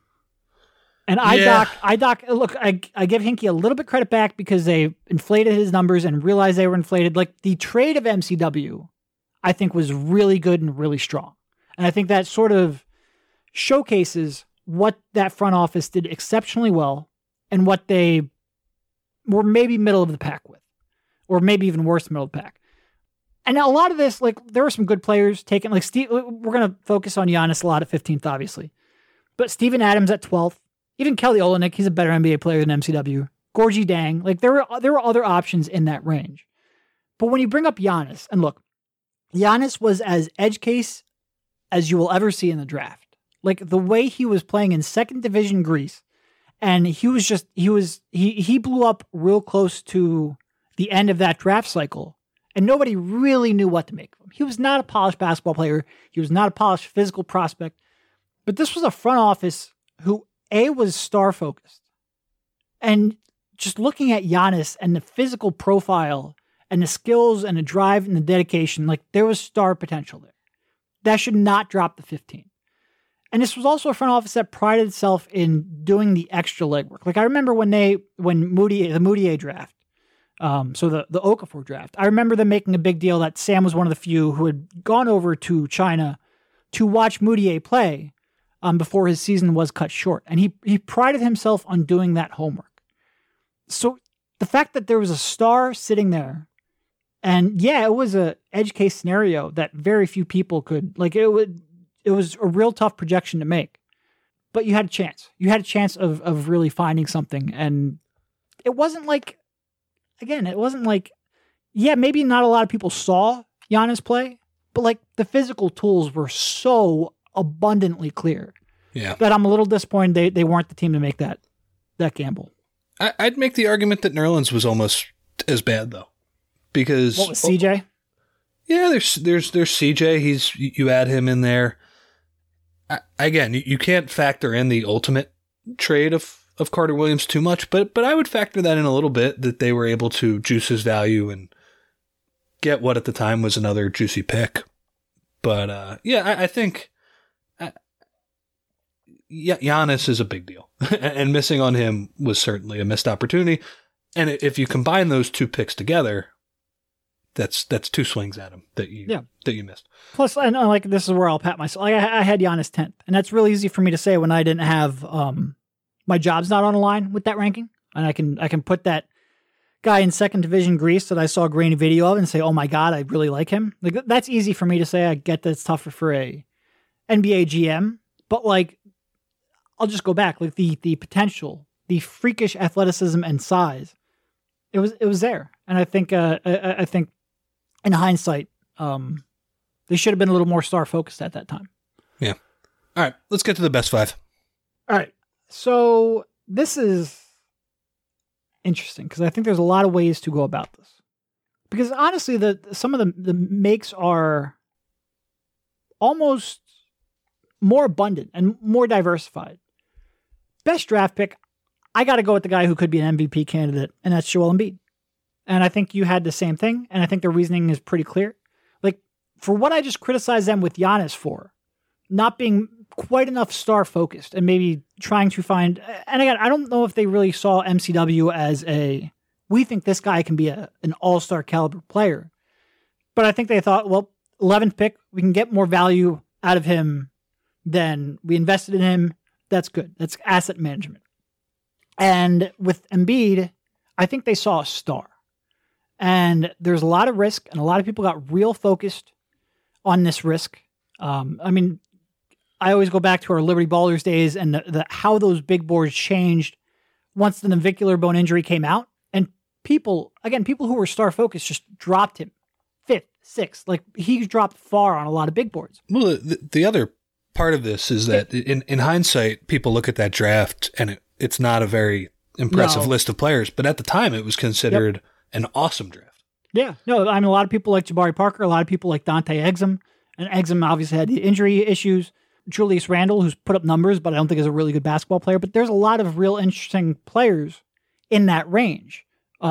and IDOC. Look, I give Hinkie a little bit credit back because they inflated his numbers and realized they were inflated. Like the trade of MCW, I think was really good and really strong, and I think that sort of showcases what that front office did exceptionally well and what they were maybe middle of the pack with, or maybe even worse, middle of the pack. And a lot of this, like there were some good players taken, like Steve, we're going to focus on Giannis a lot at 15th, obviously, but Steven Adams at 12th, even Kelly Olynyk, he's a better NBA player than MCW. Gorgie Dang, like there were other options in that range. But when you bring up Giannis, and look, Giannis was as edge case as you will ever see in the draft. Like the way he was playing in second division Greece, and he blew up real close to the end of that draft cycle, and nobody really knew what to make of him. He was not a polished basketball player. He was not a polished physical prospect. But this was a front office who, A, was star-focused. And just looking at Giannis and the physical profile and the skills and the drive and the dedication, like there was star potential there. That should not drop the 15. And this was also a front office that prided itself in doing the extra legwork. Like I remember when the Moutier draft, so the Okafor draft, I remember them making a big deal that Sam was one of the few who had gone over to China to watch Moutier play before his season was cut short. And he prided himself on doing that homework. So the fact that there was a star sitting there, and yeah, it was a edge case scenario that very few people could, like it it was a real tough projection to make. But you had a chance. You had a chance of really finding something. And it wasn't like, yeah, maybe not a lot of people saw Giannis play, but like the physical tools were so abundantly clear that I'm a little disappointed they weren't the team to make that gamble. I'd make the argument that Nerlens was almost as bad though, because what was CJ? Yeah, there's CJ. You add him in there. Again, you can't factor in the ultimate trade of Carter Williams too much, but I would factor that in a little bit, that they were able to juice his value and get what at the time was another juicy pick. But I think Giannis is a big deal, and missing on him was certainly a missed opportunity. And if you combine those two picks together, that's two swings at him that you missed. Plus, I know, like, this is where I'll pat myself. Like, I had Giannis 10th, and that's really easy for me to say when I didn't have my job's not on the line with that ranking, and I can put that guy in second division Greece that I saw a grainy video of and say, oh my God, I really like him. Like, that's easy for me to say. I get that it's tougher for a NBA GM, but like, I'll just go back. Like the potential, the freakish athleticism and size, it was there. And I think in hindsight, they should have been a little more star focused at that time. Yeah. All right, let's get to the best five. All right. So this is interesting because I think there's a lot of ways to go about this. Because honestly, some of the makes are almost more abundant and more diversified. Best draft pick, I got to go with the guy who could be an MVP candidate, and that's Joel Embiid. And I think you had the same thing, and I think the reasoning is pretty clear. Like, for what I just criticized them with Giannis for, not being quite enough star-focused and maybe trying to find... And again, I don't know if they really saw MCW as we think this guy can be an all-star caliber player. But I think they thought, well, 11th pick, we can get more value out of him than we invested in him. That's good. That's asset management. And with Embiid, I think they saw a star. And there's a lot of risk, and a lot of people got real focused on this risk. I mean, I always go back to our Liberty Ballers days and how those big boards changed once the navicular bone injury came out. And people who were star focused just dropped him 5th, 6th. Like, he dropped far on a lot of big boards. Well, the other part of this is that in hindsight, people look at that draft and it's not a very impressive list of players, but at the time it was considered an awesome draft. Yeah. No, I mean, a lot of people like Jabari Parker, a lot of people like Dante Exum, and Exum obviously had the injury issues. Julius Randle, who's put up numbers, but I don't think is a really good basketball player, but there's a lot of real interesting players in that range.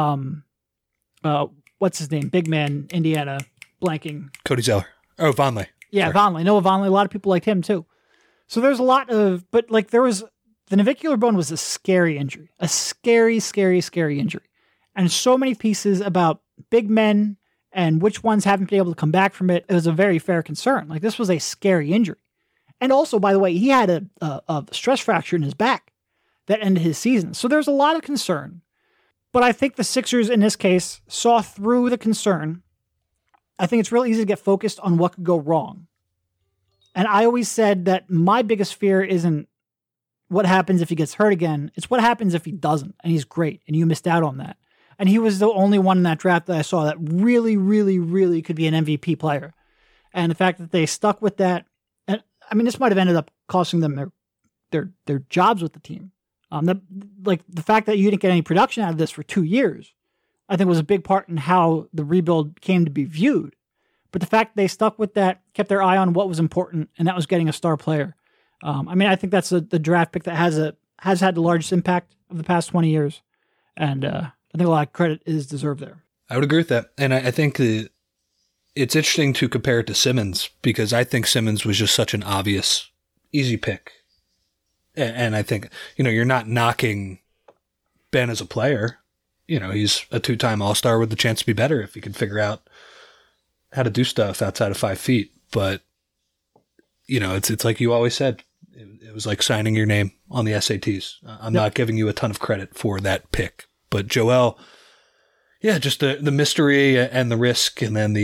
What's his name? Big man, Indiana, blanking. Cody Zeller. Oh, Vonleh. Yeah, Vonleh. Noah Vonleh. A lot of people liked him too. So there's a lot of, but like the navicular bone was a scary injury, a scary, scary, scary injury. And so many pieces about big men and which ones haven't been able to come back from it. It was a very fair concern. Like, this was a scary injury. And also, by the way, he had a stress fracture in his back that ended his season. So there's a lot of concern. But I think the Sixers in this case saw through the concern. I think it's real easy to get focused on what could go wrong. And I always said that my biggest fear isn't what happens if he gets hurt again. It's what happens if he doesn't, and he's great, and you missed out on that. And he was the only one in that draft that I saw that really, really, really could be an MVP player. And the fact that they stuck with that, and I mean, this might have ended up costing them their jobs with the team. The fact that you didn't get any production out of this for 2 years, I think was a big part in how the rebuild came to be viewed. But the fact they stuck with that, kept their eye on what was important, and that was getting a star player. I mean, I think that's the draft pick that has had the largest impact of the past 20 years. And I think a lot of credit is deserved there. I would agree with that. And I think it's interesting to compare it to Simmons, because I think Simmons was just such an obvious, easy pick. And I think, you're not knocking Ben as a player. He's a 2-time All-Star with the chance to be better if he could figure out how to do stuff outside of 5 feet. But, it's like you always said, it was like signing your name on the SATs. I'm not giving you a ton of credit for that pick. But Joel, just the mystery and the risk, and then the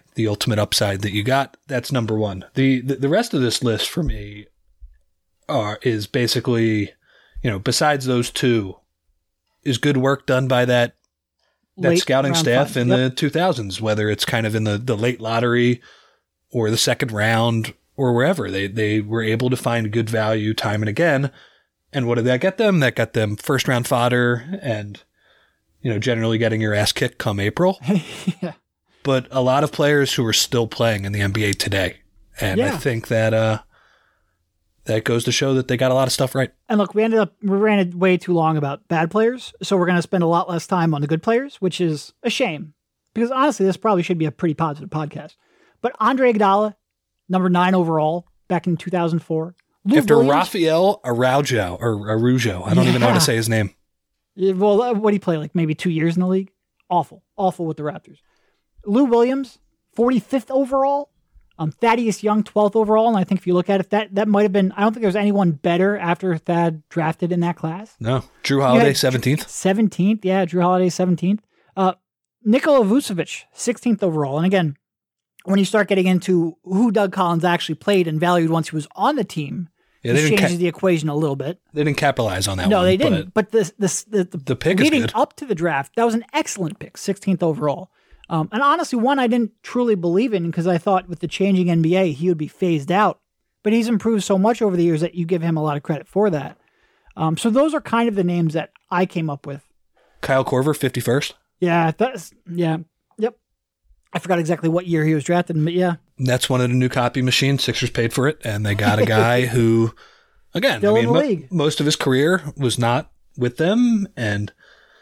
the ultimate upside that you got. That's number one. The rest of this list for me is basically, besides those two, is good work done by that scouting staff in the 2000s, whether it's kind of in the late lottery or the second round or wherever. They were able to find good value time and again. And what did that get them? That got them first round fodder and, generally getting your ass kicked come April. Yeah. But a lot of players who are still playing in the NBA today. And I think that that goes to show that they got a lot of stuff right. And look, we ran it way too long about bad players. So we're going to spend a lot less time on the good players, which is a shame. Because honestly, this probably should be a pretty positive podcast. But Andre Iguodala, number 9 overall, back in 2004. After Rafael Araujo. I don't even know how to say his name. Well, what did he play? Like maybe 2 years in the league? Awful with the Raptors. Lou Williams, 45th overall. Thaddeus Young, 12th overall. And I think if you look at it, that might have been, I don't think there was anyone better after Thad drafted in that class. No. Drew Holiday, 17th. 17th, yeah. Drew Holiday, 17th. Nikola Vucevic, 16th overall. And again, when you start getting into who Doug Collins actually played and valued once he was on the team, it changes the equation a little bit. They didn't capitalize on that one. No, they didn't. But the pick leading is good. up to the draft, that was an excellent pick, 16th overall. And honestly, one I didn't truly believe in because I thought with the changing NBA, he would be phased out. But he's improved so much over the years that you give him a lot of credit for that. So those are kind of the names that I came up with. Kyle Korver, 51st. Yep. I forgot exactly what year he was drafted, but yeah. That's one of the new copy machines. Sixers paid for it, and they got a guy who, again, still in the league. Most of his career was not with them, and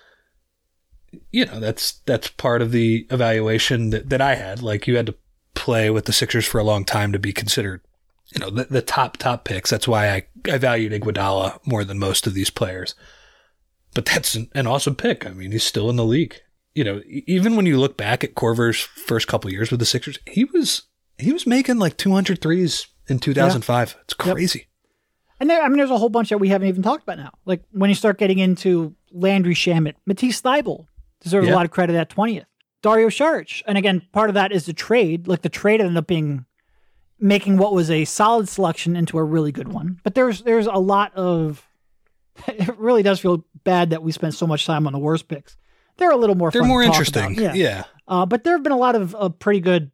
that's part of the evaluation that I had. Like, you had to play with the Sixers for a long time to be considered, the top picks. That's why I valued Iguodala more than most of these players. But that's an awesome pick. I mean, he's still in the league. Even when you look back at Korver's first couple years with the Sixers, he was making like 200 threes in 2005. Yeah. It's crazy. Yep. And there's a whole bunch that we haven't even talked about now. Like when you start getting into Landry Shamet, Matisse Thybulle deserves a lot of credit at 20th. Dario Saric. And again, part of that is the trade. Like the trade ended up making what was a solid selection into a really good one. But there's a lot of, it really does feel bad that we spent so much time on the worst picks. They're a little more fun. They're more to talk interesting. About. Yeah. But there have been a lot of pretty good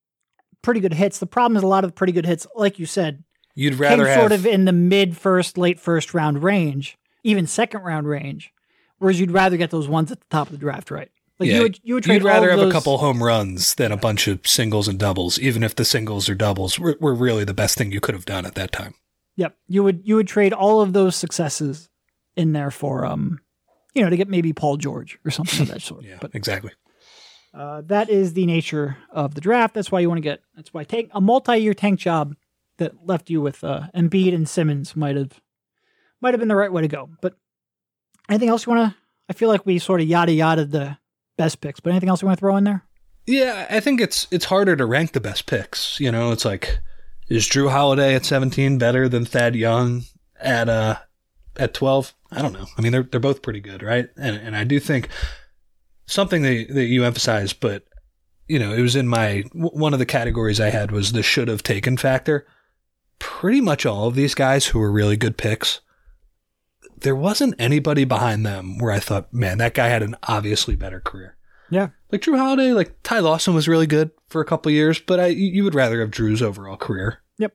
hits. The problem is a lot of the pretty good hits, like you said, you'd rather came sort of in the mid first, late first round range, even second round range, whereas you'd rather get those ones at the top of the draft, right? Like you would trade. You'd rather have a couple home runs than a bunch of singles and doubles, even if the singles or doubles were really the best thing you could have done at that time. Yep. You would trade all of those successes in there for to get maybe Paul George or something of that sort. Yeah, but exactly. That is the nature of the draft. That's why you want to that's why take a multi-year tank job that left you with Embiid and Simmons might have been the right way to go. But anything else you want to, I feel like we sort of yada the best picks, but anything else you want to throw in there? Yeah, I think it's harder to rank the best picks. It's like, is Drew Holiday at 17 better than Thad Young at 12? I don't know. I mean, they're both pretty good, right? And I do think something that you emphasized, but it was in one of the categories I had was the should have taken factor. Pretty much all of these guys who were really good picks, there wasn't anybody behind them where I thought, man, that guy had an obviously better career. Yeah. Like Drew Holiday, like Ty Lawson was really good for a couple of years, but you would rather have Drew's overall career. Yep.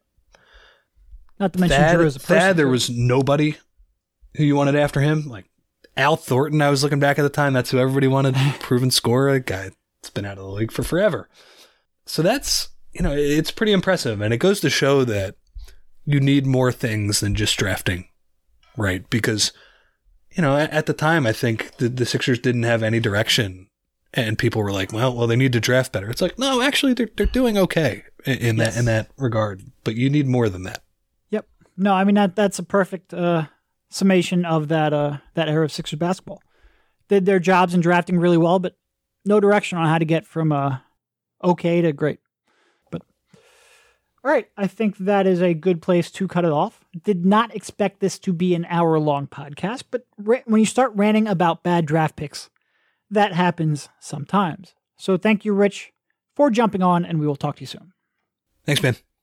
Not to mention Drew as a person. Thad, there was nobody who you wanted after him. Like Al Thornton, I was looking back at the time, that's who everybody wanted. Proven scorer, a guy that's been out of the league for forever. So that's, it's pretty impressive. And it goes to show that you need more things than just drafting, right? Because, at the time, I think the Sixers didn't have any direction. And people were like, well, they need to draft better. It's like, no, actually, they're doing okay in that regard. But you need more than that. Yep. No, I mean, that's a perfect summation of that era of Sixers basketball. Did their jobs in drafting really well, but no direction on how to get from okay to great. But all right, I think that is a good place to cut it off. Did not expect this to be an hour-long podcast, but when you start ranting about bad draft picks, that happens sometimes. So thank you, Rich, for jumping on, and we will talk to you soon. Thanks, man.